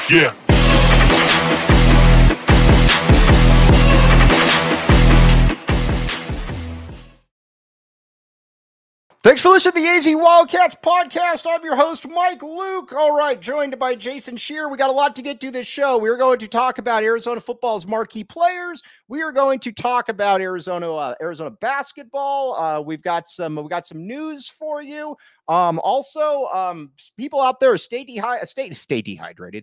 Yeah. Thanks for listening to the AZ Wildcats podcast. I'm your host, Mike Luke. All right, joined by Jason Scheer. We got a lot to get to this show. We're going to talk about Arizona football's marquee players. We are going to talk about Arizona basketball. We've got some news for you. Also, people out there stay hydrated.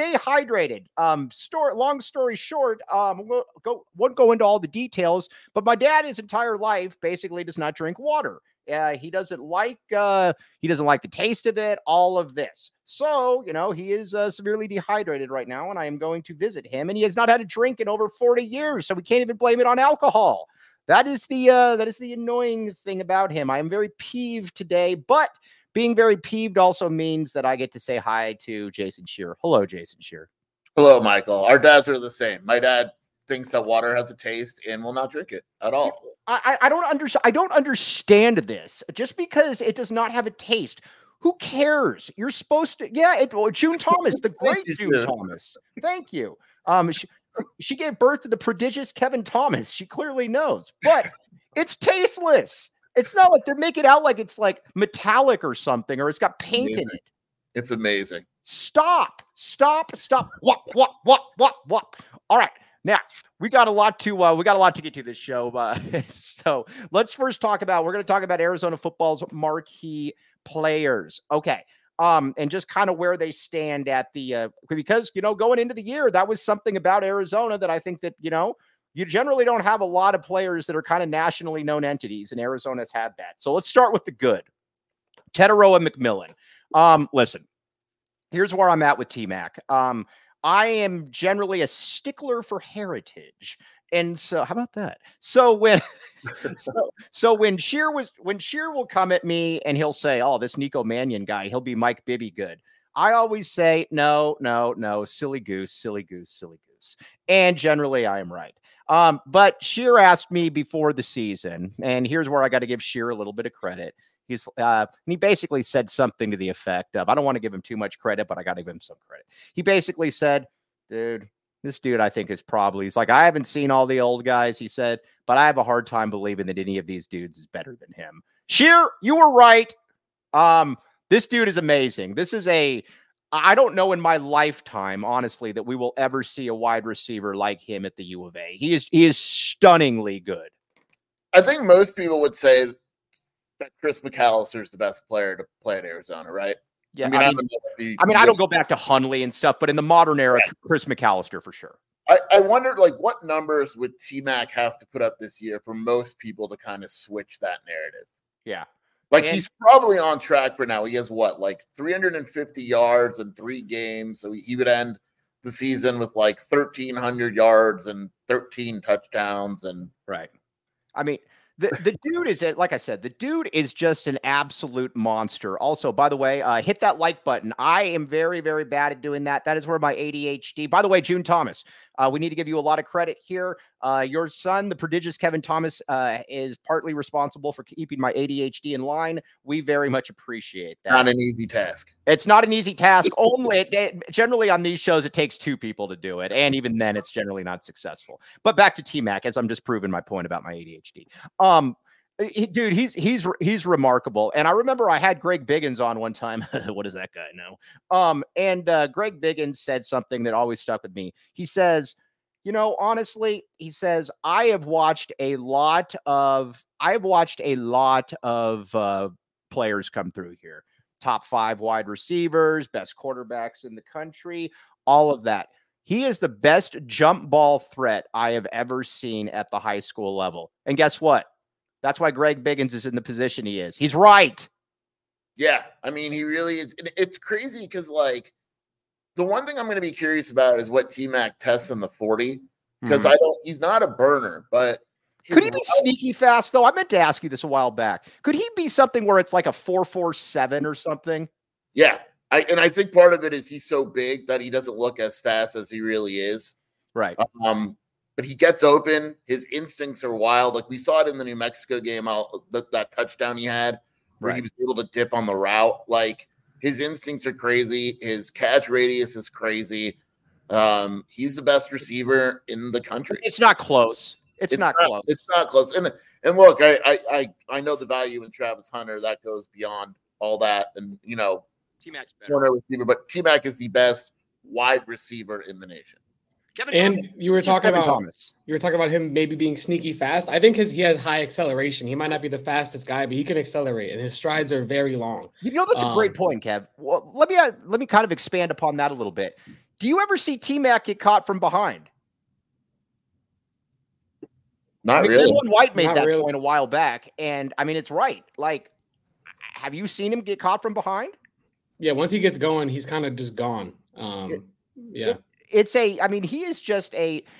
Long story short, won't go into all the details, but my dad, his entire life, basically does not drink water. He doesn't like the taste of it, all of this. So, he is severely dehydrated right now, and I am going to visit him, and he has not had a drink in over 40 years, so we can't even blame it on alcohol. That is the annoying thing about him. I am very peeved today, but being very peeved also means that I get to say hi to Jason Scheer. Hello, Jason Scheer. Hello, Michael. Our dads are the same. My dad thinks that water has a taste and will not drink it at all. I don't understand this. Just because it does not have a taste, who cares? You're supposed to. Yeah, June Thomas, the great June Thomas. Thank you. She gave birth to the prodigious Kevin Thomas. She clearly knows, but it's tasteless. It's not like they make it out like it's like metallic or something, or it's got paint in it. It's amazing. Stop. What? All right. Now, we got a lot to get to this show. So let's first we're going to talk about Arizona football's marquee players. Okay. And just kind of where they stand at because, going into the year, that was something about Arizona that I think that, you generally don't have a lot of players that are kind of nationally known entities, and Arizona's had that. So let's start with the good. Tetairoa McMillan. Listen, here's where I'm at with T-Mac. I am generally a stickler for heritage. And so how about that? So when when Scheer will come at me and he'll say, "Oh, this Nico Mannion guy, he'll be Mike Bibby good." I always say, no, silly goose. And generally I am right. But Scheer asked me before the season, and here's where I got to give Scheer a little bit of credit. He basically said something to the effect of, I don't want to give him too much credit, but I got to give him some credit. He basically said, this dude, I think he's like, I haven't seen all the old guys, he said, but I have a hard time believing that any of these dudes is better than him. Scheer, you were right. This dude is amazing. I don't know in my lifetime, honestly, that we will ever see a wide receiver like him at the U of A. He is stunningly good. I think most people would say that Chris McAllister is the best player to play at Arizona, right? Yeah, I don't go back to Hundley and stuff, but in the modern era, right. Chris McAllister for sure. I wondered, what numbers would T-Mac have to put up this year for most people to kind of switch that narrative? Yeah. He's probably on track for now. He has 350 yards in 3 games, so he would end the season with 1,300 yards and 13 touchdowns. And right. I mean, the dude is, like I said, the dude is just an absolute monster. Also, by the way, hit that like button. I am very, very bad at doing that. That is where my ADHD. By the way, June Thomas, we need to give you a lot of credit here. Your son, the prodigious Kevin Thomas, is partly responsible for keeping my ADHD in line. We very much appreciate that. Not an easy task. It's not an easy task. Generally on these shows, it takes 2 people to do it. And even then, it's generally not successful. But back to T-Mac, as I'm just proving my point about my ADHD. Dude, he's remarkable. And I remember I had Greg Biggins on one time. What does that guy know? And Greg Biggins said something that always stuck with me. He says, honestly, he says, I have watched a lot of players come through here. Top 5 wide receivers, best quarterbacks in the country, all of that. He is the best jump ball threat I have ever seen at the high school level. And guess what? That's why Greg Biggins is in the position he is. He's right. Yeah, I mean, he really is. It's crazy because, the one thing I'm going to be curious about is what T-Mac tests in the 40, because he's not a burner, but could he be sneaky fast, though? I meant to ask you this a while back. Could he be something where it's like a 4.47 or something? Yeah, I think part of it is he's so big that he doesn't look as fast as he really is. Right. But he gets open. His instincts are wild. We saw it in the New Mexico game, that touchdown he had, where he was able to dip on the route. His instincts are crazy. His catch radius is crazy. He's the best receiver in the country. It's not close. It's not close. It's not close. And look, I know the value in Travis Hunter. That goes beyond all that. And, you know, T-Mac's better. Corner receiver, but T-Mac is the best wide receiver in the nation. You were talking about him maybe being sneaky fast. I think he has high acceleration. He might not be the fastest guy, but he can accelerate, and his strides are very long. You know, that's a great point, Kev. Well, let me kind of expand upon that a little bit. Do you ever see T-Mac get caught from behind? Not really. Dylan White made that point a while back, and I mean, it's right. Like, have you seen him get caught from behind? Yeah, once he gets going, he's kind of just gone. Yeah. He is just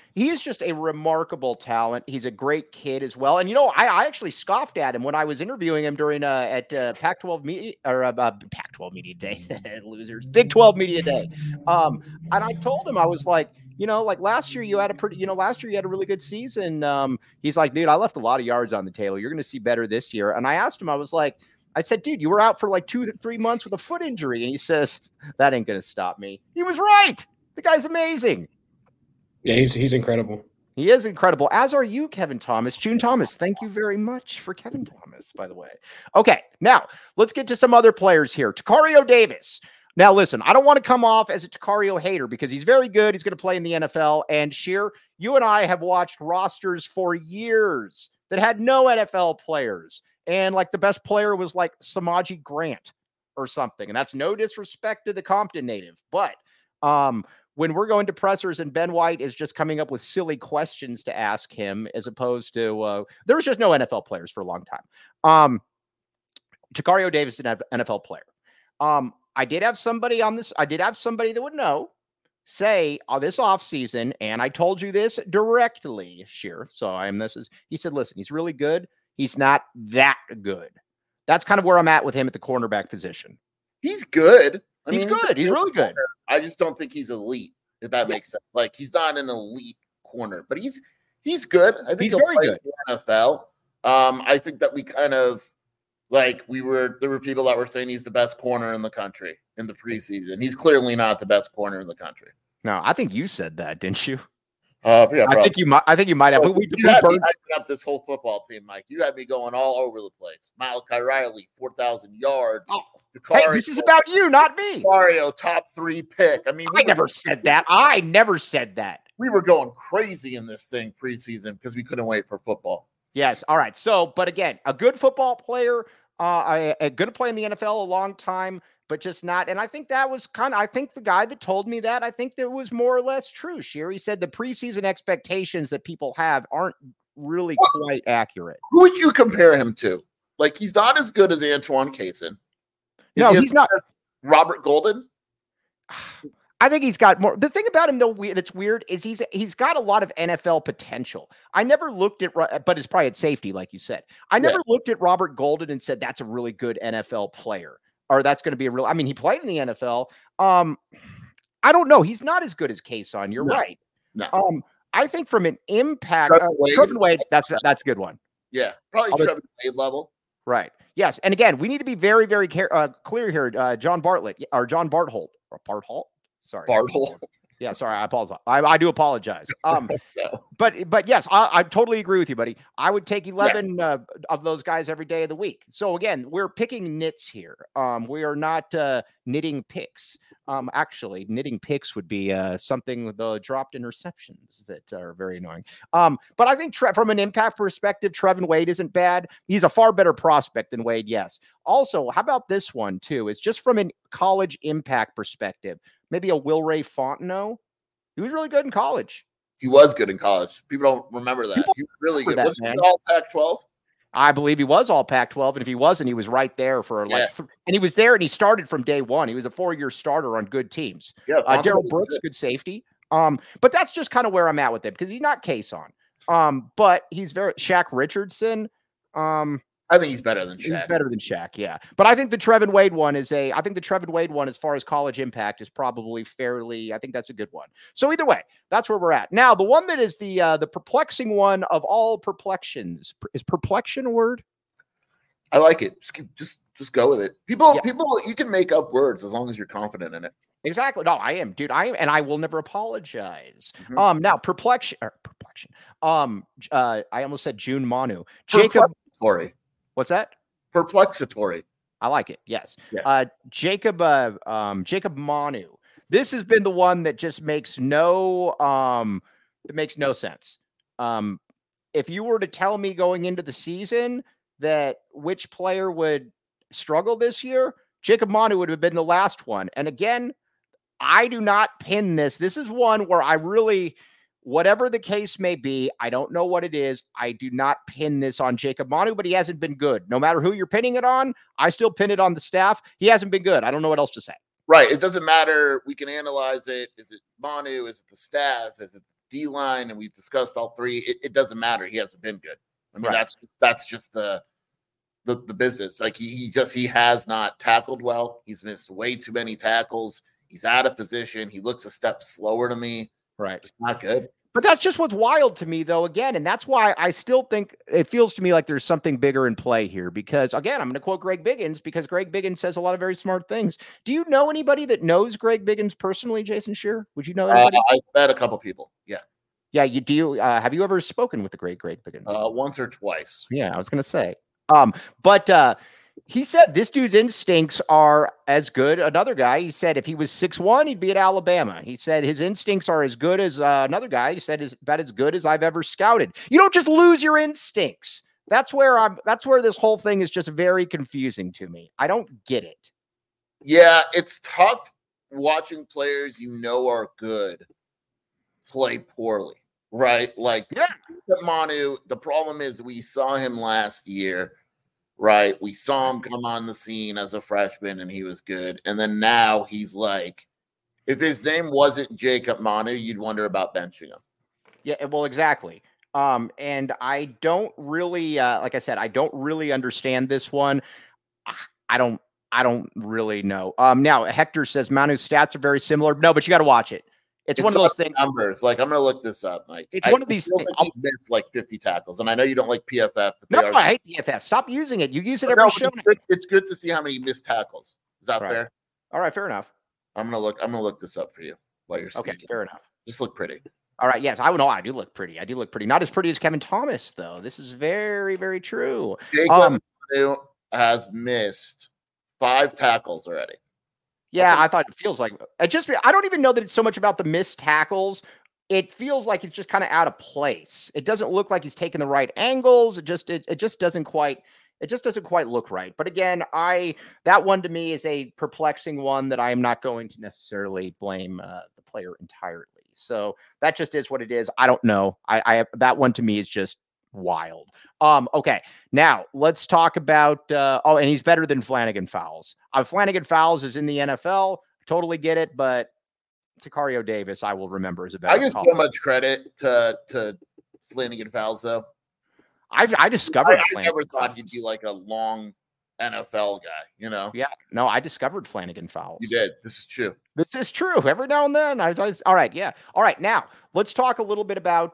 a remarkable talent. He's a great kid as well. And, you know, I actually scoffed at him when I was interviewing him during at Pac-12 media or Pac-12 media day, losers, Big 12 media day. And I told him, I was like, you know, like last year you had a really good season. He's like, dude, I left a lot of yards on the table. You're going to see better this year. And I asked him, I said, dude, you were out for like 2 to 3 months with a foot injury. And he says, that ain't going to stop me. He was right. The guy's amazing. Yeah, he's incredible. He is incredible, as are you, Kevin Thomas. June Thomas, thank you very much for Kevin Thomas, by the way. Okay, now let's get to some other players here. Tacario Davis. Now, listen, I don't want to come off as a Tacario hater because he's very good. He's going to play in the NFL. And Sheer, you and I have watched rosters for years that had no NFL players. And like the best player was like Samaji Grant or something. And that's no disrespect to the Compton native. But when we're going to pressers and Ben White is just coming up with silly questions to ask him, as opposed to there was just no NFL players for a long time. Tacario Davis is an NFL player. I did have somebody that would know say this offseason, and I told you this directly, Sheer. So he said, listen, he's really good. He's not that good. That's kind of where I'm at with him at the cornerback position. He's good. He's good. He's really good. I just don't think he's elite, if that makes sense. Like, he's not an elite corner, but he's good. I think he's very good in the NFL. I think that we kind of there were people that were saying he's the best corner in the country in the preseason. He's clearly not the best corner in the country. No, I think you said that, didn't you? Yeah, I think you might have. You had me hyping up this whole football team, Mike. You had me going all over the place. Malachi Riley, 4,000 yards. Oh. Hey, this is about you, not me. Mario, top 3 pick. I mean, I never said that. We were going crazy in this thing preseason because we couldn't wait for football. Yes. All right. So, but again, a good football player, going to play in the NFL a long time, but just not. And I think that was I think the guy that told me that, I think that was more or less true. Sherry said the preseason expectations that people have aren't really quite accurate. Who would you compare him to? Like, he's not as good as Antoine Cason. No, he's not. Robert Golden? I think he's got more. The thing about him, though, that's weird is he's got a lot of NFL potential. I never looked at, but it's probably at safety, like you said. I never looked at Robert Golden and said that's a really good NFL player, or that's going to be a real. I mean, he played in the NFL. I don't know. He's not as good as Kason. You're right. No. I think from an impact, Trevin Wade, that's a good one. Yeah, probably Trevin Wade level. Right. Yes. And again, we need to be very, very clear here. John Bartholt. Sorry. Bartholt. Yeah. Sorry. I apologize. I do apologize. But yes, I totally agree with you, buddy. I would take 11 of those guys every day of the week. So again, we're picking nits here. We are not knitting picks. Actually, knitting picks would be something with the dropped interceptions that are very annoying. But I think from an impact perspective, Trevin Wade isn't bad. He's a far better prospect than Wade, yes. Also, how about this one, too? It's just from a college impact perspective. Maybe a Wilray Fontenot. He was really good in college. He was good in college. People don't remember that. He was really good. Was he all Pac-12? I believe he was all Pac-12, and if he wasn't, he was right there for and he was there, and he started from day one. He was a 4-year starter on good teams. Yeah, Darrell Brooks, good safety. But that's just kind of where I'm at with him because he's not Kason. But he's very Shaq Richardson. I think he's better than Shaq. He's better than Shaq, yeah. But I think the Trevin Wade one as far as college impact is probably fairly, I think that's a good one. So either way, that's where we're at. Now, the one that is the perplexing one of all perplexions. Is perplexion a word? I like it. Just Just go with it. People, you can make up words as long as you're confident in it. Exactly. No, I am, dude. I am, and I will never apologize. Now perplexion. I almost said June Manu. Jacob. What's that? Perplexatory. I like it. Yes. Yeah. Jacob Manu. This has been the one that just makes no sense. If you were to tell me going into the season that which player would struggle this year, Jacob Manu would have been the last one. And again, I do not pin this. This is one where I really, whatever the case may be, I don't know what it is. I do not pin this on Jacob Manu, but he hasn't been good. No matter who you're pinning it on, I still pin it on the staff. He hasn't been good. I don't know what else to say. Right. It doesn't matter. We can analyze it. Is it Manu? Is it the staff? Is it the D-line? And we've discussed all three. It doesn't matter. He hasn't been good. I mean, that's just the business. Like he has not tackled well. He's missed way too many tackles. He's out of position. He looks a step slower to me. Right. It's not good. But that's just what's wild to me, though, again. And that's why I still think it feels to me like there's something bigger in play here. Because, again, I'm going to quote Greg Biggins because Greg Biggins says a lot of very smart things. Do you know anybody that knows Greg Biggins personally, Jason Scheer? Would you know anybody? I've met a couple people. Yeah. Yeah. You do. Have you ever spoken with the great Greg Biggins? Once or twice. Yeah, I was going to say. But he said this dude's instincts are as good. Another guy, he said if he was 6'1", he'd be at Alabama. He said his instincts are as good as another guy. He said is about as good as I've ever scouted. You don't just lose your instincts. That's where this whole thing is just very confusing to me. I don't get it. Yeah, it's tough watching players are good play poorly, right? Like Manu, the problem is we saw him last year. Right. We saw him come on the scene as a freshman and he was good. And then now he's like, if his name wasn't Jacob Manu, you'd wonder about benching him. Yeah, well, exactly. And I don't really, like I said, I don't really understand this one. I don't really know. Now Hector says Manu's stats are very similar. No, but you got to watch it. It's one of those things. Numbers. Like, I'm going to look this up, Mike. It's one of these things. He missed like 50 tackles. And I know you don't like PFF. But no, I hate PFF. Stop using it. You use it every show. It's good to see how many missed tackles. Is that fair? All right. Fair enough. I'm going to look this up for you while you're speaking. Okay. Fair enough. Just look pretty. All right. Yes. I do look pretty. I do look pretty. Not as pretty as Kevin Thomas, though. This is very, very true. Jacob Manu has missed 5 tackles already. Yeah, I thought it feels like I don't even know that it's so much about the missed tackles. It feels like it's just kind of out of place. It doesn't look like he's taking the right angles. It just doesn't quite look right. But again, that one to me is a perplexing one that I am not going to necessarily blame the player entirely. So that just is what it is. I don't know. I that one to me is just wild. Okay. Now let's talk about, and he's better than Flanagan Fowles. Flanagan Fowles is in the NFL. Totally get it. But Tacario Davis, I will remember as a better. I give so much credit to Flanagan Fowles though. I discovered I never thought he'd be like a long NFL guy, Yeah. No, I discovered Flanagan Fowles. You did. This is true. This is true. Every now and then. All right. Yeah. All right. Now let's talk a little bit about,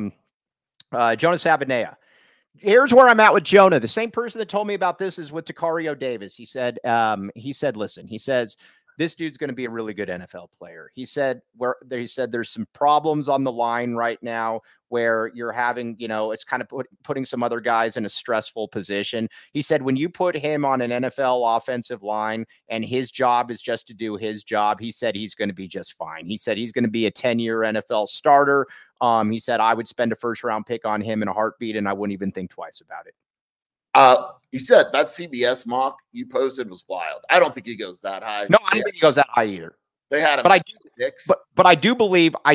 Jonah Savaiinaea. Here's where I'm at with Jonah. The same person that told me about this is with Tacario Davis. He said, listen, he says, this dude's going to be a really good NFL player. He said there's some problems on the line right now where you're having, it's kind of putting some other guys in a stressful position. He said, when you put him on an NFL offensive line and his job is just to do his job, he said he's going to be just fine. He said he's going to be a 10-year NFL starter. He said, I would spend a first-round pick on him in a heartbeat, and I wouldn't even think twice about it. You said that CBS mock you posted was wild. I don't think he goes that high. No, I don't think he goes that high either. They had him but I do believe that,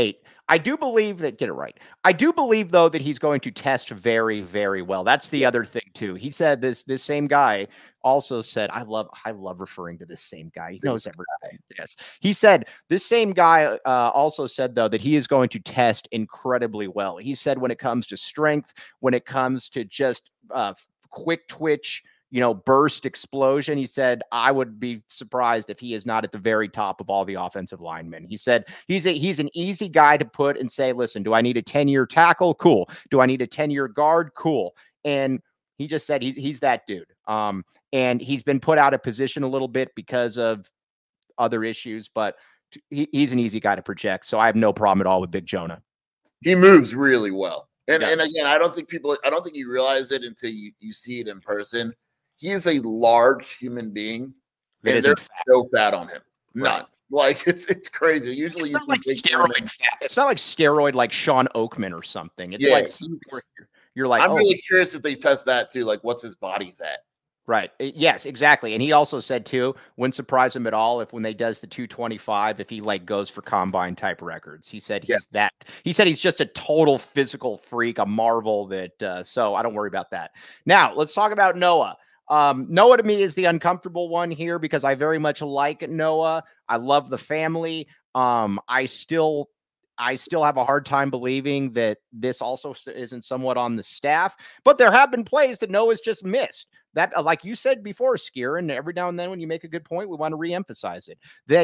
get it right. I do believe, though, that he's going to test very, very well. That's the other thing, too. He said this same guy also said, I love referring to this same guy. He knows everything. Yes. He said this same guy also said, though, that he is going to test incredibly well. He said when it comes to strength, when it comes to just quick twitch, burst explosion. He said, I would be surprised if he is not at the very top of all the offensive linemen. He said he's an easy guy to put and say, listen, do I need a 10-year tackle? Cool. Do I need a 10-year guard? Cool. And he just said he's that dude. And he's been put out of position a little bit because of other issues, but he's an easy guy to project. So I have no problem at all with Big Jonah. He moves really well. And again, I don't think you realize it until you see it in person. He is a large human being. And there's no fat on him. None. Right. Like it's crazy. Usually it's not like steroid fat. It's not like steroid like Sean Oakman or something. It's like you're like, I'm really curious if they test that too. Like, what's his body fat? Right. Yes, exactly. And he also said too, wouldn't surprise him at all if when they does the 225, if he like goes for combine type records. He said he said he's just a total physical freak, a marvel that so I don't worry about that. Now let's talk about Noah. Noah to me is the uncomfortable one here because I very much like Noah. I love the family. I still have a hard time believing that this also isn't somewhat on the staff, but there have been plays that Noah's just missed. That, like you said before, Skier, and every now and then when you make a good point, we want to reemphasize it.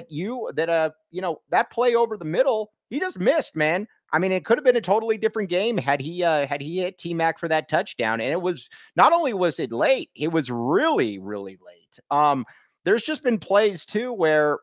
That play over the middle, he just missed, man. I mean, it could have been a totally different game had he hit T-Mac for that touchdown. And it was not only was it late, it was really, really late. There's just been plays too where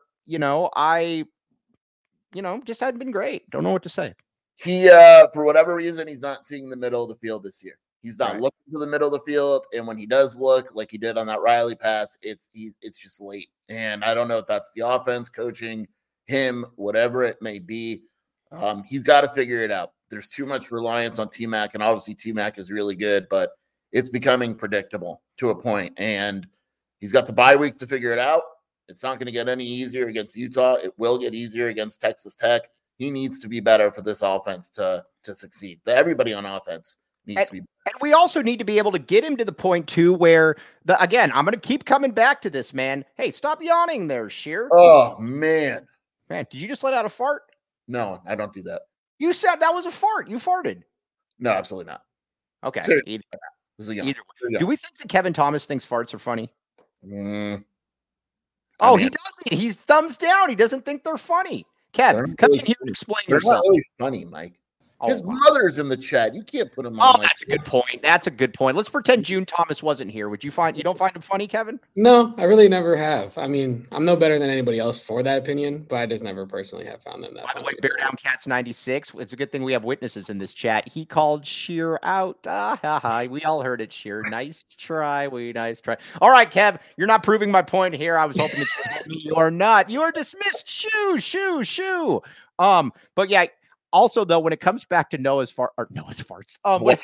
just hadn't been great. Don't know what to say. He, for whatever reason, he's not seeing the middle of the field this year. He's not looking to the middle of the field, and when he does look, like he did on that Riley pass, it's just late. And I don't know if that's the offense coaching him, whatever it may be. He's got to figure it out. There's too much reliance on T-Mac, and obviously T-Mac is really good, but it's becoming predictable to a point. And he's got the bye week to figure it out. It's not going to get any easier against Utah. It will get easier against Texas Tech. He needs to be better for this offense to succeed. Everybody on offense needs to be better. And we also need to be able to get him to the point, too, where, again, I'm going to keep coming back to this, man. Hey, stop yawning there, Sheer. Oh, man. Man, did you just let out a fart? No, I don't do that. You said that was a fart. You farted. No, absolutely not. Okay. Either way. Do we think that Kevin Thomas thinks farts are funny? He doesn't. He's thumbs down. He doesn't think they're funny. Kev, come in here and explain yourself. They're not really funny, Mike. His mother's in the chat. You can't put him on. Oh, that's a good point. That's a good point. Let's pretend June Thomas wasn't here. You don't find him funny, Kevin? No, I really never have. I mean, I'm no better than anybody else for that opinion, but I just never personally have found them that funny. By the way, Bear Down Cats 96. It's a good thing we have witnesses in this chat. He called Sheer out. We all heard it, Sheer. Nice try. Nice try. All right, Kev, you're not proving my point here. I was hoping that you help me. You are not. You are dismissed. Shoo. But yeah. Also, though, when it comes back to Noah's farts, when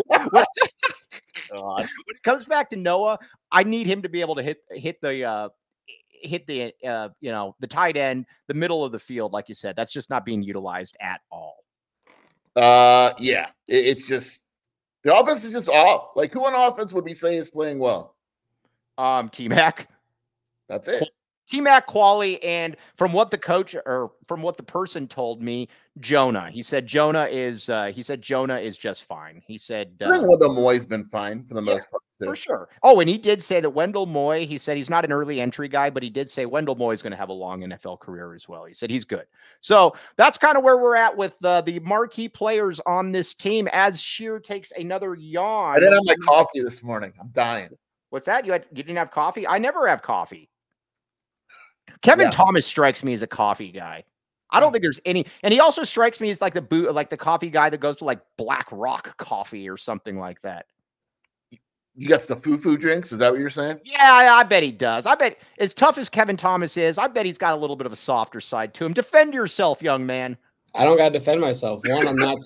it comes back to Noah, I need him to be able to hit the tight end, the middle of the field, like you said. That's just not being utilized at all. Yeah, it's just the offense is just off. Like, who on offense would we say is playing well? T-Mac. That's it. T-Mac, Quali, and from what the coach or from what the person told me, Jonah. He said Jonah is just fine. He said I think Wendell Moy's been fine for the most part. For sure. Oh, and he did say that Wendell Moy, he said he's not an early entry guy, but he did say Wendell Moy is going to have a long NFL career as well. He said he's good. So that's kind of where we're at with the marquee players on this team as Sheer takes another yawn. I didn't have my coffee this morning. I'm dying. What's that? You didn't have coffee? I never have coffee. Kevin Thomas strikes me as a coffee guy. I don't think there's any, and he also strikes me as like the coffee guy that goes to like Black Rock Coffee or something like that. You got the foo-foo drinks? Is that what you're saying? Yeah, I bet he does. I bet as tough as Kevin Thomas is, I bet he's got a little bit of a softer side to him. Defend yourself, young man. I don't got to defend myself. One, I'm not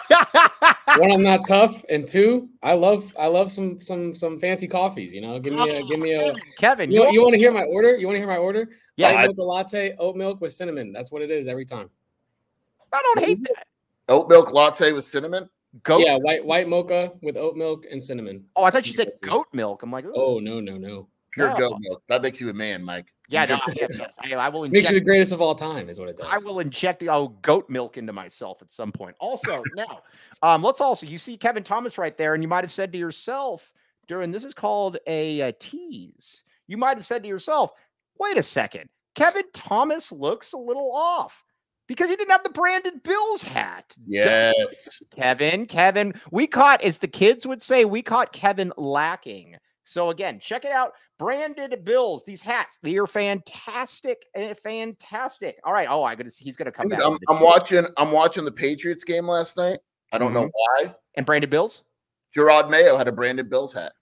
tough. And two, I love some fancy coffees. You know, give me a Kevin. You want to hear my order? You want to hear my order? Yeah, White mocha latte, oat milk with cinnamon. That's what it is every time. I don't hate that. Oat milk latte with cinnamon. Yeah, white mocha with oat milk and cinnamon. Oh, I thought you said goat milk. I'm like, ooh. Oh no. Pure goat milk. That makes you a man, Mike. Yeah, no, yes. I will inject. Makes you the greatest of all time, is what it does. I will inject goat milk into myself at some point. Also, now, you see Kevin Thomas right there, and you might have said to yourself this is called a tease. You might have said to yourself, wait a second, Kevin Thomas looks a little off because he didn't have the Brandon Bills hat. Yes. Kevin, we caught, as the kids would say, we caught Kevin lacking. So again, check it out. Branded Bills, these hats, they are fantastic. Fantastic. All right. Oh, he's gonna come back. I'm watching the Patriots game last night. I don't know why. And Branded Bills? Gerard Mayo had a Branded Bills hat.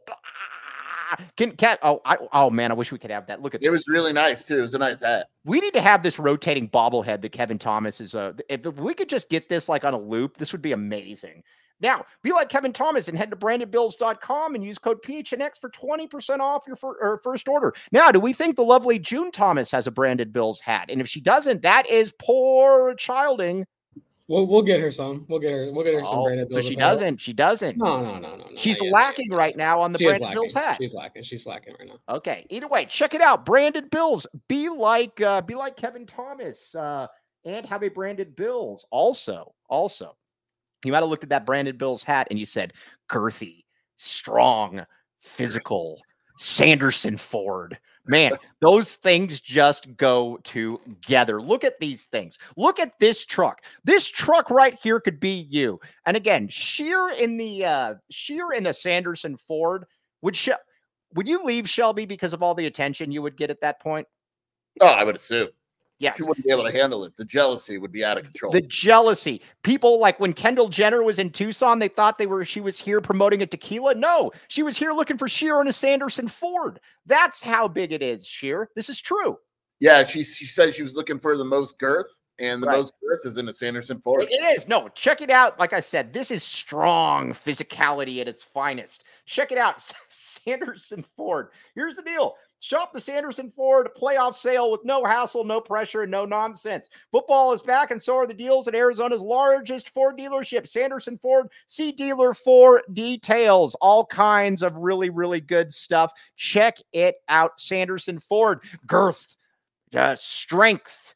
Oh man, I wish we could have that. Look at it. It was really nice too. It was a nice hat. We need to have this rotating bobblehead that Kevin Thomas is. If we could just get this like on a loop, this would be amazing. Now, be like Kevin Thomas and head to brandedbills.com and use code PHNX for 20% off your first order. Now, do we think the lovely June Thomas has a Branded Bills hat? And if she doesn't, that is poor childing. We'll get her some. We'll get her some Branded Bills. So she doesn't. She doesn't. No. She's lacking right now on the Branded Bills hat. She's lacking right now. Okay. Either way, check it out. Branded Bills. Be like Kevin Thomas and have a Branded Bills. Also, you might have looked at that Branded Bills hat and you said, girthy, strong, physical, Sanderson Ford. Man, those things just go together. Look at these things. Look at this truck. This truck right here could be you. And again, sheer in the Sanderson Ford. Would you leave Shelby because of all the attention you would get at that point? Oh, I would assume. Yes. She wouldn't be able to handle it. The jealousy would be out of control. The jealousy. People like when Kendall Jenner was in Tucson, they thought she was here promoting a tequila. No, she was here looking for Sheer in a Sanderson Ford. That's how big it is, Sheer. This is true. Yeah, she said she was looking for the most girth, and the most girth is in a Sanderson Ford. It is. No, check it out. Like I said, this is strong physicality at its finest. Check it out. Sanderson Ford. Here's the deal. Shop the Sanderson Ford playoff sale with no hassle, no pressure, and no nonsense. Football is back, and so are the deals at Arizona's largest Ford dealership, Sanderson Ford. See dealer for details. All kinds of really, really good stuff. Check it out. Sanderson Ford. Girth, strength,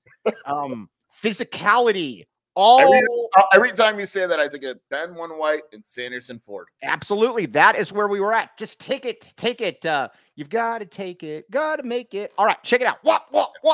physicality. Every time you say that, I think of Ben One White and Sanderson Ford. Absolutely. That is where we were at. Just take it. You've got to take it. Got to make it. All right. Check it out. What?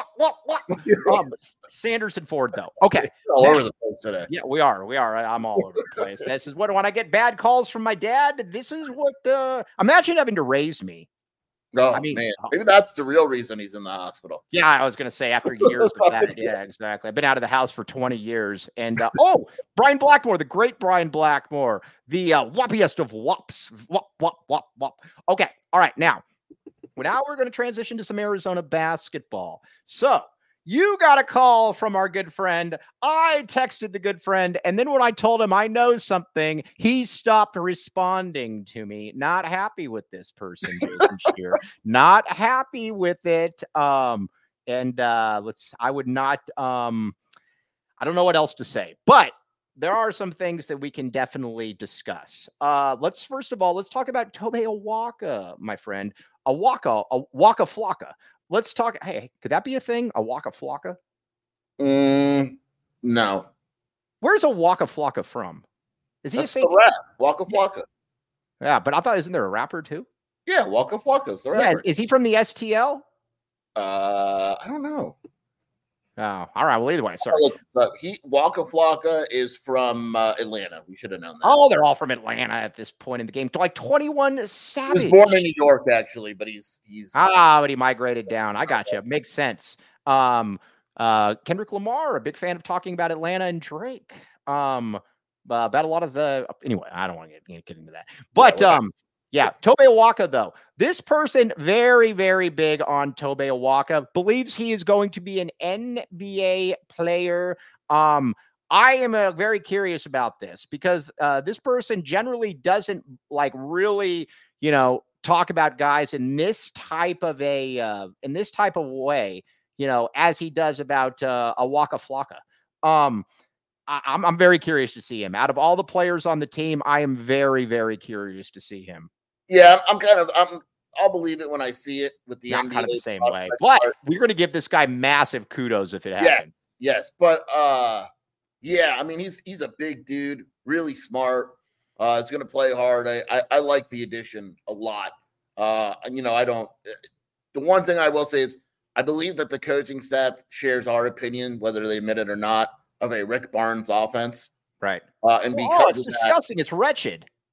Sanderson Ford, though. Okay. All over the place today. Yeah, we are. I'm all over the place. This is what, when I get bad calls from my dad, this is what, imagine having to raise me. Oh, man. Maybe that's the real reason he's in the hospital. Yeah, I was going to say after years of that. Yeah, exactly. I've been out of the house for 20 years. And, Brian Blackmore, the great Brian Blackmore, the whoppiest of whops. Whop. Okay. All right. Now we're going to transition to some Arizona basketball. So you got a call from our good friend. I texted the good friend. And then when I told him I know something, he stopped responding to me. Not happy with this person, Jason Shear. Not happy with it. I don't know what else to say, but there are some things that we can definitely discuss. Let's talk about Tobe Awaka, my friend. Waka Flocka. Let's talk. Hey, could that be a thing? A Waka Flocka? No. Where's a Waka Flocka from? Is he That's a rap? Waka Flocka. Yeah, but I thought, isn't there a rapper too? Yeah, Waka Flocka's the rapper. Yeah, is he from the STL? I don't know. Oh, all right. Well, either way, sorry. Waka Flocka is from Atlanta. We should have known that. Oh, they're all from Atlanta at this point in the game. Like 21 Savage. He was born in New York, actually, but he's. But he migrated down. I got you. Makes sense. Kendrick Lamar, a big fan of talking about Atlanta and Drake. About a lot of the. Anyway, I don't want to get into that. But yeah, Tobe Awaka, though. This person, very, very big on Tobe Awaka, believes he is going to be an NBA player. I am very curious about this because this person generally doesn't really, talk about guys in this type of way, as he does about Waka Flocka. I'm very curious to see him. Out of all the players on the team, I am very, very curious to see him. Yeah, I'll believe it when I see it with the NBA. Kind of the same way. But we're going to give this guy massive kudos if it happens. Yes. But yeah, I mean, he's a big dude, really smart. He's going to play hard. I like the addition a lot. The one thing I will say is I believe that the coaching staff shares our opinion, whether they admit it or not, of a Rick Barnes offense. Right. And because it's disgusting. It's wretched.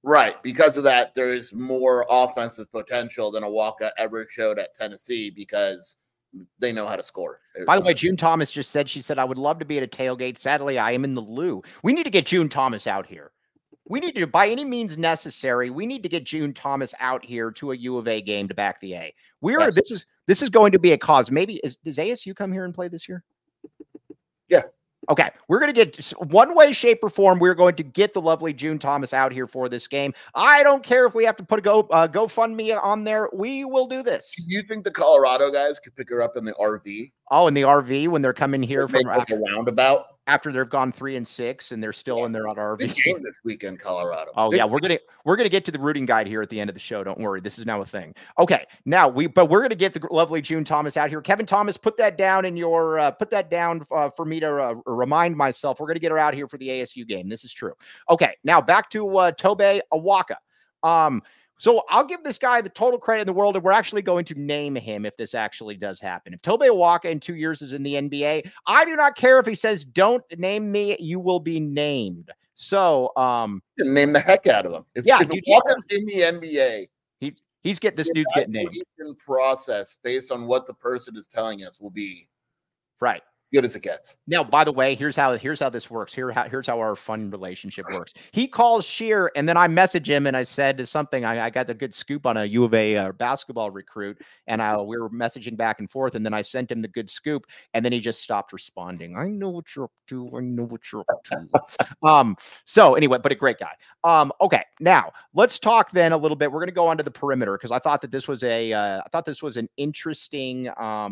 Right. Because of that, there's more offensive potential than Awaka ever showed at Tennessee because they know how to score. By the way, June Thomas just said, she said, I would love to be at a tailgate. Sadly, I am in the loo. We need to get June Thomas out here. We need to, by any means necessary, we need to get June Thomas out here to a U of A game to back the A. This is going to be a cause. Maybe does ASU come here and play this year? Yeah. Okay, we're going to get one way, shape, or form. We're going to get the lovely June Thomas out here for this game. I don't care if we have to put a GoFundMe on there. We will do this. Do you think the Colorado guys could pick her up in the RV? Oh, in the RV when they're coming here from like a roundabout after they've gone 3-6 and they're still in their RV. Big game this weekend, Colorado. Oh yeah, we're gonna get to the rooting guide here at the end of the show. Don't worry, this is now a thing. Okay, now we're gonna get the lovely June Thomas out here. Kevin Thomas, put that down in your for me to remind myself. We're gonna get her out here for the ASU game. This is true. Okay, now back to Tobe Awaka. So I'll give this guy the total credit in the world, and we're actually going to name him if this actually does happen. If Tobe Awaka in 2 years is in the NBA, I do not care if he says, don't name me, you will be named. So name the heck out of him. If Awaka's in the NBA, he's getting this dude's getting named. Process based on what the person is telling us will be right. Good as it gets. Now, by the way, here's how this works. Here's how our fun relationship works. He calls Sheer, and then I message him, and I said something. I got a good scoop on a U of A basketball recruit, and we were messaging back and forth, and then I sent him the good scoop, and then he just stopped responding. I know what you're up to. I know what you're up to. So anyway, but a great guy. Okay, now let's talk then a little bit. We're going to go onto the perimeter because I thought that this was an interesting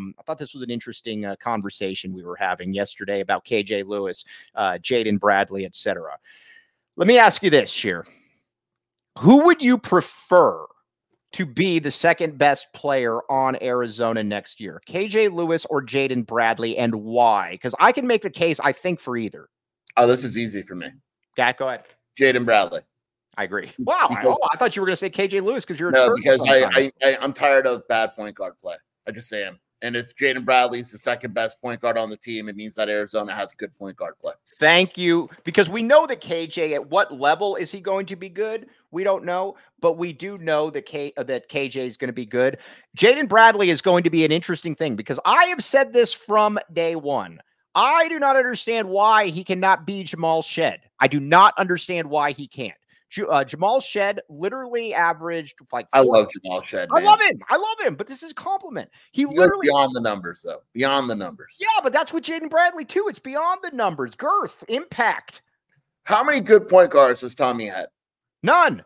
conversation we were having yesterday about KJ Lewis, Jaden Bradley, etc. Let me ask you this, Sheer. Who would you prefer to be the second best player on Arizona next year? KJ Lewis or Jaden Bradley, and why? Because I can make the case, I think, for either. Oh, this is easy for me. Yeah, go ahead. Jaden Bradley. I agree. Wow. I thought you were going to say KJ Lewis because you're I'm tired of bad point guard play. I just am. And if Jaden Bradley's the second best point guard on the team, it means that Arizona has good point guard play. Thank you. Because we know that KJ, at what level is he going to be good? We don't know, but we do know that KJ is going to be good. Jaden Bradley is going to be an interesting thing because I have said this from day one. I do not understand why he cannot be Jamal Shead. I do not understand why he can't. Jamal Shead literally averaged like. I love Jamal Shead. Man. I love him. But this is a compliment. He literally beyond the numbers, though. Beyond the numbers. Yeah, but that's what Jaden Bradley too. It's beyond the numbers. Girth, impact. How many good point guards has Tommy had? None.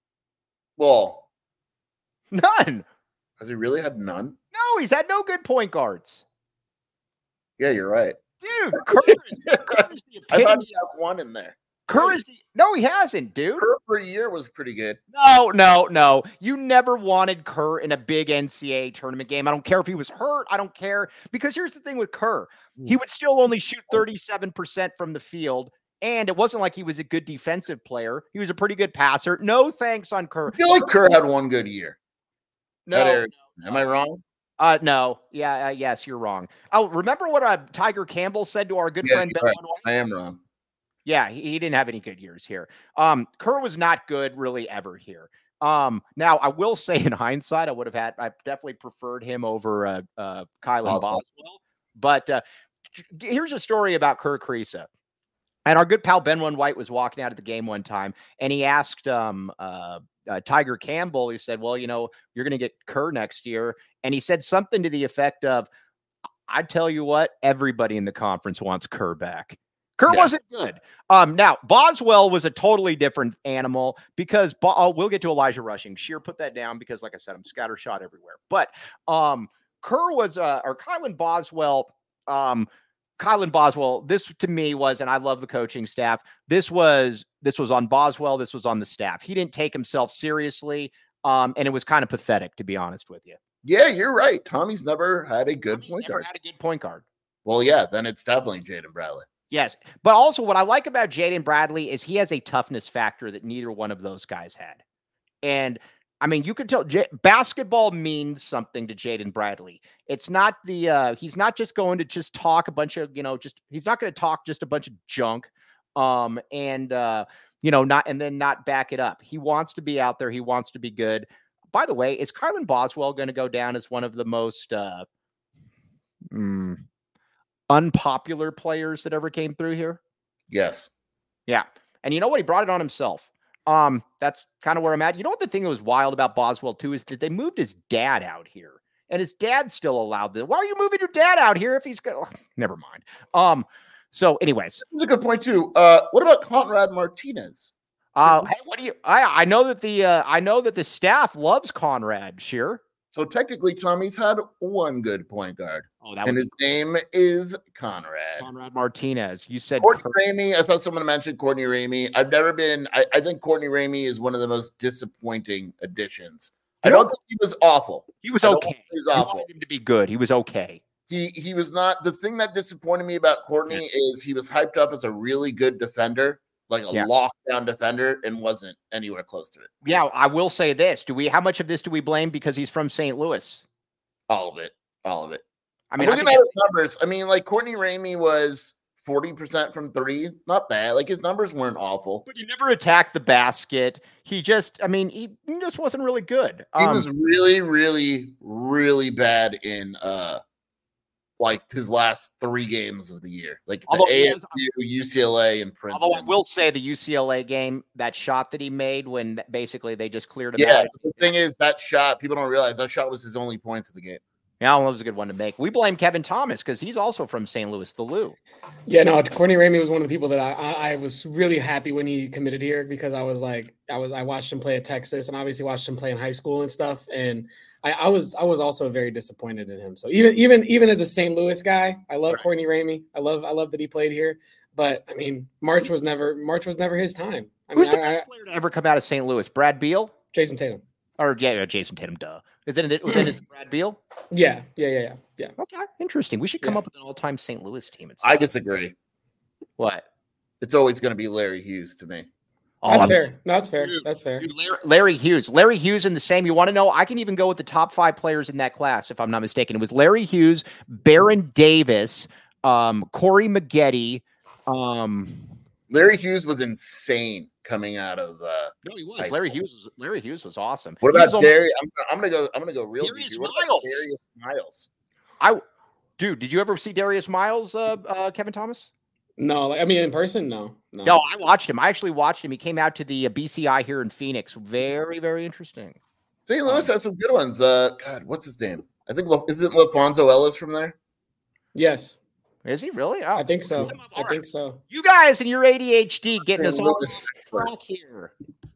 Well, none. Has he really had none? No, he's had no good point guards. Yeah, you're right, dude. Kerr is the epitome. I thought he had one in there. Kerr is no, he hasn't, dude. Kerr for a year was pretty good. No. You never wanted Kerr in a big NCAA tournament game. I don't care if he was hurt. I don't care. Because here's the thing with Kerr. He would still only shoot 37% from the field. And it wasn't like he was a good defensive player. He was a pretty good passer. No thanks on Kerr. I feel like Kerr had one good year. No. Am I wrong? No. Yeah. Yes, you're wrong. Oh, remember what Tiger Campbell said to our good friend Ben? Right. I am wrong. Yeah, he didn't have any good years here. Kerr was not good really ever here. Now, I will say in hindsight, I definitely preferred him over Kylan Boswell. But here's a story about Kerr Kriisa. And our good pal Benwin White was walking out of the game one time, and he asked Tiger Campbell, he said, well, you're going to get Kerr next year. And he said something to the effect of, I tell you what, everybody in the conference wants Kerr back. Kerr wasn't good. Now, Boswell was a totally different animal because we'll get to Elijah Rushing. Sheer, put that down because, like I said, I'm scattershot everywhere. But Kerr was, or Kylan Boswell, this to me was, and I love the coaching staff, this was on Boswell, this was on the staff. He didn't take himself seriously, and it was kind of pathetic, to be honest with you. Yeah, you're right. Tommy's never had a good point guard. Well, yeah, then it's definitely Jaden Bradley. Yes, but also what I like about Jaden Bradley is he has a toughness factor that neither one of those guys had. And, I mean, you can tell basketball means something to Jaden Bradley. It's not he's not just going to just talk a bunch of, he's not going to talk just a bunch of junk. not back it up. He wants to be out there. He wants to be good. By the way, is Kylan Boswell going to go down as one of the most unpopular players that ever came through here? Yes. Yeah. And you know what? He brought it on himself. That's kind of where I'm at. You know what the thing that was wild about Boswell too is that they moved his dad out here, and his dad still allowed this. Why are you moving your dad out here if he's going? Never mind. So, anyways, that's a good point too. What about Conrad Martinez? Hey, what do you? I know that the staff loves Conrad. Sure. So technically, Tommy's had one good point guard. And his name is Conrad Martinez. You said Courtney Ramey. I saw someone mention Courtney Ramey. I think Courtney Ramey is one of the most disappointing additions. I don't think he was awful. He was okay. He was awful. I wanted him to be good. He was okay. He was not. The thing that disappointed me about Courtney is he was hyped up as a really good defender, like a lockdown defender, and wasn't anywhere close to it. Yeah, I will say this. How much of this do we blame because he's from St. Louis? All of it. I mean, looking at his numbers, like Courtney Ramey was 40% from three. Not bad. Like his numbers weren't awful. But he never attacked the basket. He just wasn't really good. He was really, really, really bad in like his last 3 games of the year, like the ASU, UCLA, and Princeton. Although I will say the UCLA game, that shot that he made when basically they just cleared him out. Yeah, the thing is that shot, people don't realize that shot was his only points of the game. Yeah, that was a good one to make. We blame Kevin Thomas because he's also from St. Louis, the Lou. Yeah, no, Courtney Ramey was one of the people that I was really happy when he committed here because I watched him play at Texas and obviously watched him play in high school and stuff. And I was also very disappointed in him. So even as a St. Louis guy, I love Courtney Ramey. I love that he played here. But I mean, March was never his time. Who's the best player to ever come out of St. Louis? Brad Beal? Jason Tatum. Or Jason Tatum, duh. Is it Brad Beal? Yeah. Okay, interesting. We should come up with an all-time St. Louis team. I disagree. What? It's always going to be Larry Hughes to me. That's fair. No, that's fair. That's fair. Dude, Larry Hughes. Larry Hughes in the same. You want to know? I can even go with the top 5 players in that class, if I'm not mistaken. It was Larry Hughes, Baron Davis, Corey Maggette. Larry Hughes was insane coming out of. No, he was. Larry Hughes was awesome. What about Darius? I'm gonna go real Darius deep. Miles. Darius Miles. Dude, did you ever see Darius Miles, Kevin Thomas? No, in person, no. No, I watched him. I actually watched him. He came out to the BCI here in Phoenix. Very, very interesting. St. Louis has some good ones. God, what's his name? I think isn't LaFonso Ellis from there? Yes. Is he really? Oh, I think so. I think so. You guys and your ADHD getting us all back here.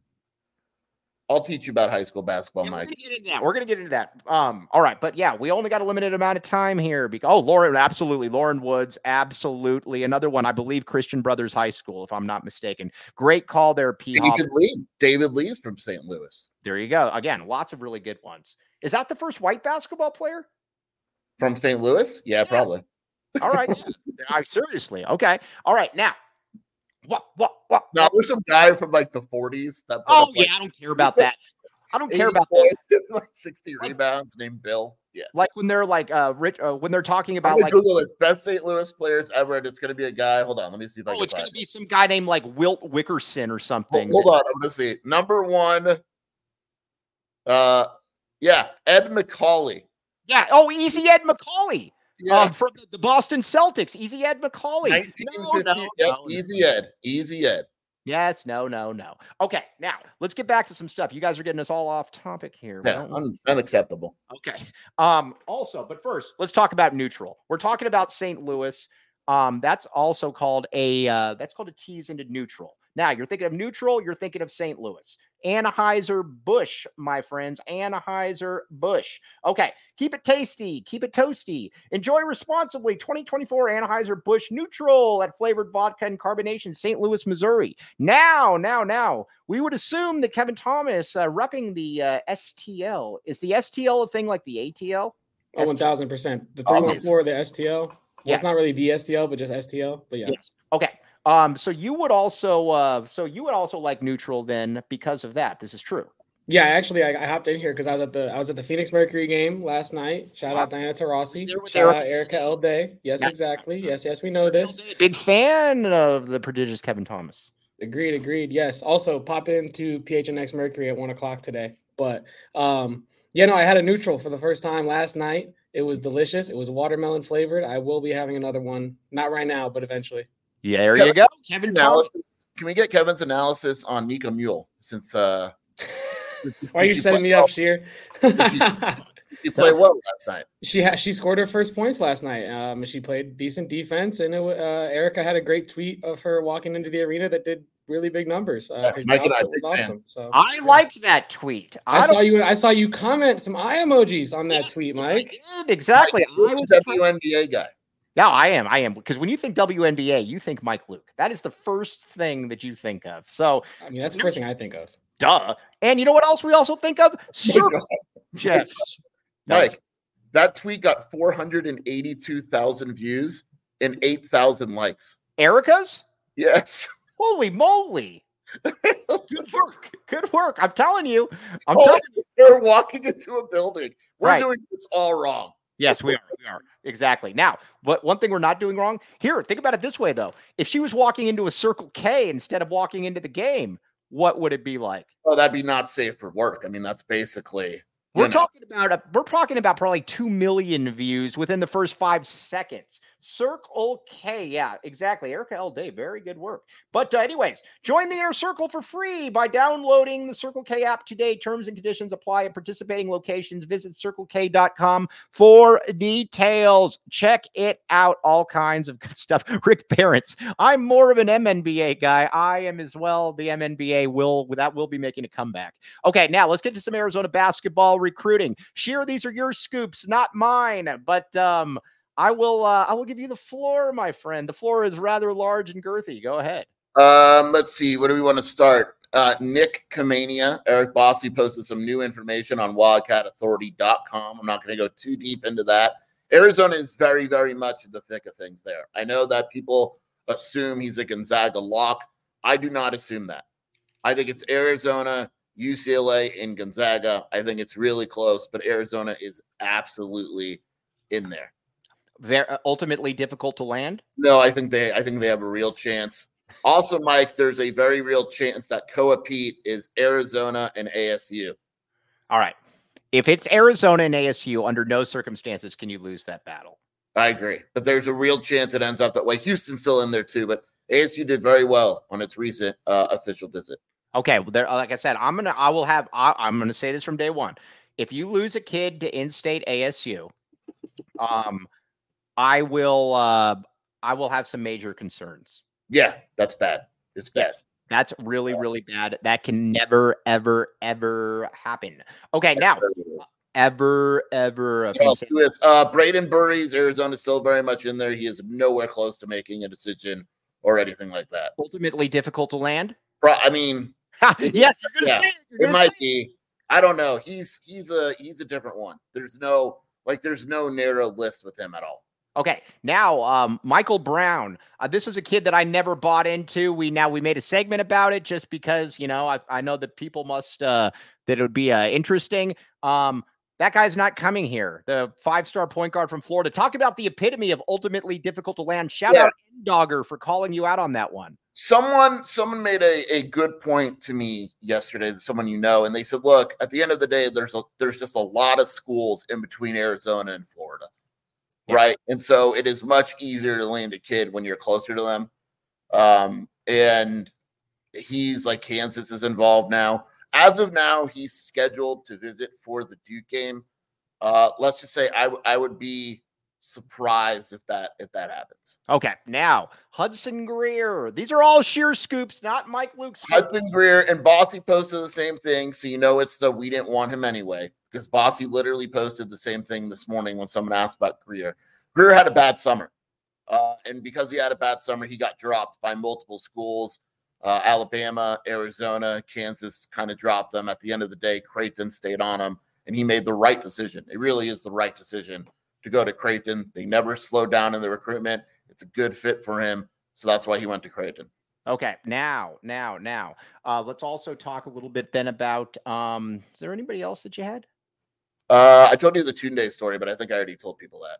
I'll teach you about high school basketball, Mike. We're gonna get into that. All right, but yeah, we only got a limited amount of time here. Lauren Woods, absolutely. Another one, I believe, Christian Brothers High School, if I'm not mistaken. Great call there, P. David Lee's from St. Louis. There you go. Again, lots of really good ones. Is that the first white basketball player from St. Louis? Yeah, probably. All right. Seriously. Okay. All right. Now. What? No, there's some guy from like the 40s. I don't care about that. I don't care about that. Like 60 rebounds named Bill. Yeah. Like when they're like rich, when they're talking about like Google this best St. Louis players ever, and it's going to be a guy. Hold on, let me see if I can. It's going to be some guy named like Wilt Wickerson or something. Hold on, I'm going to see. Number 1. Ed McCauley. Yeah. Oh, easy Ed McCauley. Yeah. From the Boston Celtics, Easy Ed McCauley. Easy Ed. Yes, no. Okay, now let's get back to some stuff. You guys are getting us all off topic here. Yeah, unacceptable. Okay. Also, but first, let's talk about neutral. We're talking about St. Louis. That's also called a tease into neutral. Now, you're thinking of neutral, you're thinking of St. Louis. Anheuser-Busch, my friends. Anheuser-Busch. Okay, keep it tasty, keep it toasty. Enjoy responsibly. 2024 Anheuser-Busch Neutral at flavored vodka and carbonation, St. Louis, Missouri. Now, we would assume that Kevin Thomas repping the STL. Is the STL a thing like the ATL? Oh, 1,000%. The 314, the STL. Well, yes. It's not really the STL, but just STL. But yeah. Yes. Okay. So you would also like neutral then because of that. This is true. Yeah, actually, I hopped in here because I was at the Phoenix Mercury game last night. Shout out Diana Taurasi. Shout out Erica L. Day. Yes, exactly. Yes, we know this. Big fan of the prodigious Kevin Thomas. Agreed. Yes. Also, pop into PHNX Mercury at 1:00 today. But I had a neutral for the first time last night. It was delicious. It was watermelon flavored. I will be having another one, not right now, but eventually. Yeah, there you go, Kevin Thompson. Can we get Kevin's analysis on Nico Mule? Since why are you setting me up, Sheer? She played well last night. She scored her first points last night. She played decent defense, and Erica had a great tweet of her walking into the arena that did really big numbers. Mike and I was awesome. So I liked that tweet. I saw you comment some eye emojis on that tweet, Mike. I did, exactly. I was a WNBA guy. Yeah, I am. Because when you think WNBA, you think Mike Luke. That is the first thing that you think of. So I mean, that's the first thing I think of. Duh. And you know what else we also think of? Yes. Mike, that tweet got 482,000 views and 8,000 likes. Erica's? Yes. Holy moly. Good work. I'm telling you. They're walking into a building. We're doing this all wrong. Yes, we are. Exactly. Now, but one thing we're not doing wrong here, think about it this way, though. If she was walking into a Circle K instead of walking into the game, what would it be like? Oh, that'd be not safe for work. I mean, that's basically... We're talking about probably 2 million views within the first 5 seconds. Circle K, yeah, exactly. Erica L. Day, very good work. But anyways, join the Inner Circle for free by downloading the Circle K app today. Terms and conditions apply at participating locations. Visit CircleK.com for details. Check it out. All kinds of good stuff. Rick Barents, I'm more of an MNBA guy. I am as well. The MNBA will be making a comeback. Okay, now let's get to some Arizona basketball recruiting. Sheer, these are your scoops, not mine. But I will give you the floor, my friend. The floor is rather large and girthy. Go ahead. Let's see. Where do we want to start? Nick Kamania, Eric Bossy posted some new information on WildcatAuthority.com. I'm not going to go too deep into that. Arizona is very, very much in the thick of things there. I know that people assume he's a Gonzaga lock. I do not assume that. I think it's Arizona, UCLA, and Gonzaga. I think it's really close, but Arizona is absolutely in there. They're ultimately difficult to land? No, I think they have a real chance. Also, Mike, there's a very real chance that Koa Pete is Arizona and ASU. All right. If it's Arizona and ASU, under no circumstances can you lose that battle. I agree. But there's a real chance it ends up that way. Houston's still in there too, but ASU did very well on its recent official visit. Okay, well, there, like I said, I'm gonna say this from day one. If you lose a kid to in-state ASU, I will have some major concerns. Yeah, that's bad. It's bad. Yes, that's really, really bad. That can never, ever, ever happen. Okay, now, ever. Braden Burries, Arizona, still very much in there. He is nowhere close to making a decision or anything like that. Ultimately difficult to land. I mean, yes, you're gonna say it. It might be. I don't know. He's a different one. There's no narrow list with him at all. Okay, now Michael Brown. This is a kid that I never bought into. We made a segment about it just because I know that people must that it would be interesting. That guy's not coming here. The 5-star point guard from Florida. Talk about the epitome of ultimately difficult to land. Shout out N-Dogger for calling you out on that one. Someone made a good point to me yesterday, someone and they said, look, at the end of the day, there's just a lot of schools in between Arizona and Florida, right? And so it is much easier to land a kid when you're closer to them. And he's like, Kansas is involved now. As of now, he's scheduled to visit for the Duke game. Let's just say I would be surprised if that happens. Okay, now Hudson Greer. These are all sheer scoops, not Mike Luke's. Hudson Greer and Bossy posted the same thing, so it's the we didn't want him anyway, because Bossy literally posted the same thing this morning when someone asked about Greer. Greer had a bad summer, and because he had a bad summer, he got dropped by multiple schools. Alabama, Arizona, Kansas kind of dropped him. At the end of the day, Creighton stayed on him, and he made the right decision. It really is the right decision to go to Creighton. They never slowed down in the recruitment. It's a good fit for him, so that's why he went to Creighton. Okay, now, let's also talk a little bit then about, is there anybody else that you had? I told you the Tunde story, but I think I already told people that.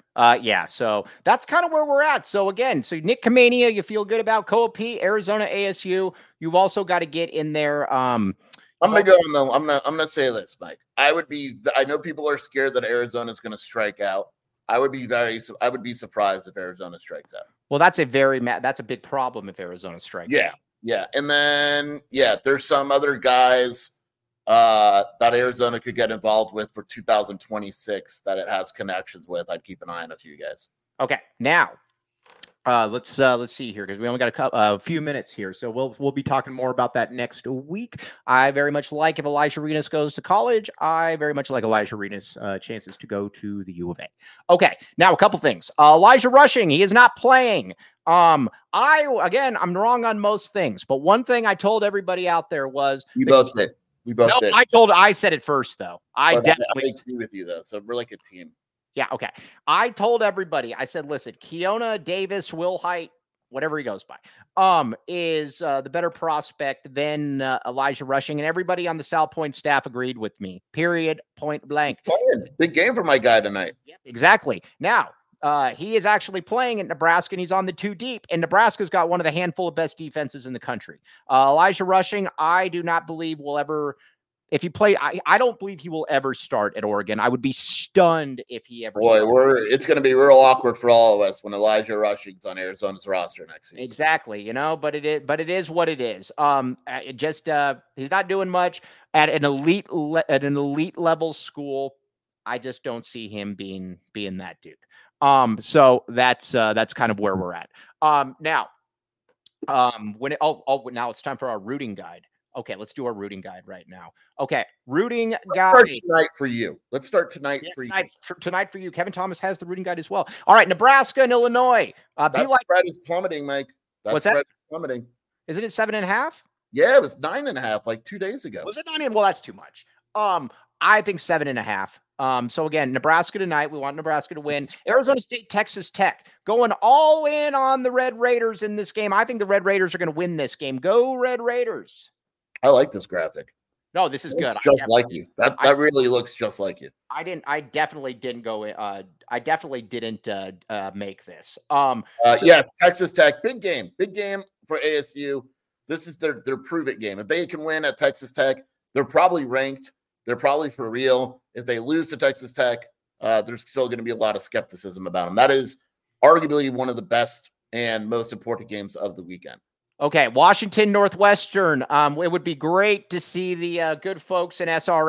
Yeah, so that's kind of where we're at. So again, Nick Kamania, you feel good about Kopi, Arizona, ASU. You've also got to get in there. I'm gonna go on the. I'm gonna say this, Mike. I know people are scared that Arizona is gonna strike out. I would be surprised if Arizona strikes out. Well, that's a big problem if Arizona strikes out. Yeah. And then, there's some other guys that Arizona could get involved with for 2026 that it has connections with. I'd keep an eye on a few guys. Okay. Now, let's see here, because we only got a few minutes here, so we'll be talking more about that next week. I very much like if Elijah Arenas goes to college. I very much like Elijah Arenas' chances to go to the U of A. Okay, now a couple things. Elijah Rushing, he is not playing. I'm wrong on most things, but one thing I told everybody out there was we both did. I said it first though. I definitely agree with you though. So we're like a team. Yeah, okay. I told everybody, I said, listen, Keona Davis, Will Height, whatever he goes by, is the better prospect than Elijah Rushing, and everybody on the South Point staff agreed with me. Period. Point blank. Big game for my guy tonight. Yep, exactly. Now, he is actually playing at Nebraska, and he's on the 2 deep, and Nebraska's got one of the handful of best defenses in the country. Elijah Rushing, I do not believe will ever. If he played, I don't believe he will ever start at Oregon. I would be stunned if he ever. It's going to be real awkward for all of us when Elijah Rushing's on Arizona's roster next season. Exactly, but it is what it is. He's not doing much at an elite level school. I just don't see him being that dude. So that's kind of where we're at. Now it's time for our rooting guide. Okay, let's do our rooting guide right now. Okay, rooting guide. Let's start tonight for you. Tonight for you. Kevin Thomas has the rooting guide as well. All right, Nebraska and Illinois. Spread is plummeting, Mike. What's that? Plummeting. Isn't it 7.5? Yeah, it was 9.5 like 2 days ago. Was it 9? Well, that's too much. I think 7.5. So again, Nebraska tonight. We want Nebraska to win. Arizona State, Texas Tech, going all in on the Red Raiders in this game. I think the Red Raiders are going to win this game. Go Red Raiders. I like this graphic. No, this is good. Just like you. That really looks just like you. I definitely didn't go. I definitely didn't make this. Yes, Texas Tech, big game for ASU. This is their prove it game. If they can win at Texas Tech, they're probably ranked. They're probably for real. If they lose to Texas Tech, there's still going to be a lot of skepticism about them. That is arguably one of the best and most important games of the weekend. Okay, Washington Northwestern. It would be great to see the good folks in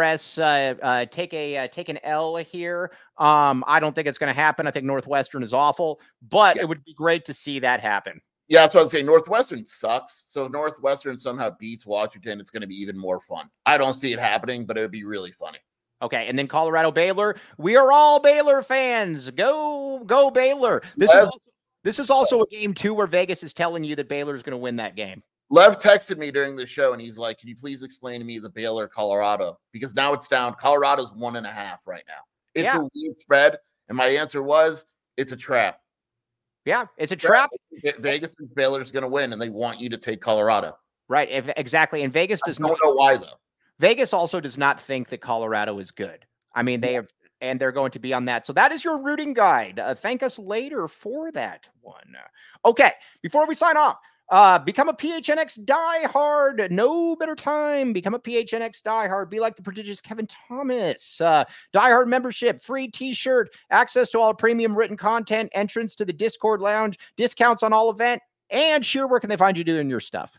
SRS take an L here. I don't think it's going to happen. I think Northwestern is awful, but It would be great to see that happen. Yeah, that's what I'd say. Northwestern sucks. So if Northwestern somehow beats Washington, it's going to be even more fun. I don't see it happening, but it would be really funny. Okay, and then Colorado Baylor. We are all Baylor fans. Go Baylor. This is also a game, too, where Vegas is telling you that Baylor is going to win that game. Lev texted me during the show, and he's like, can you please explain to me the Baylor-Colorado? Because now it's down. Colorado's 1.5 right now. It's a weird spread, and my answer was, it's a trap. Yeah, it's a trap. Vegas thinks Baylor's going to win, and they want you to take Colorado. Right, exactly. And Vegas does not. I don't know why, though. Vegas also does not think that Colorado is good. I mean, and they're going to be on that. So that is your rooting guide. Thank us later for that one. Okay, before we sign off, become a PHNX diehard. No better time. Become a PHNX diehard. Be like the prodigious Kevin Thomas. Diehard membership, free t-shirt, access to all premium written content, entrance to the Discord lounge, discounts on all event, and sure, where can they find you doing your stuff?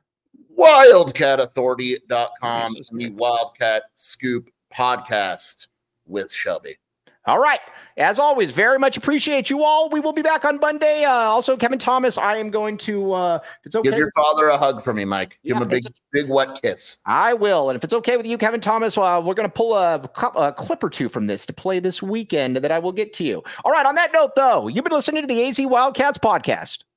WildcatAuthority.com and the Wildcat Scoop podcast with Shelby. All right. As always, very much appreciate you all. We will be back on Monday. Also, Kevin Thomas, I am going to, if it's okay. Give your father a hug for me, Mike. Give him a big wet kiss. I will. And if it's okay with you, Kevin Thomas, we're going to pull a clip or two from this to play this weekend that I will get to you. All right. On that note, though, you've been listening to the AZ Wildcats podcast.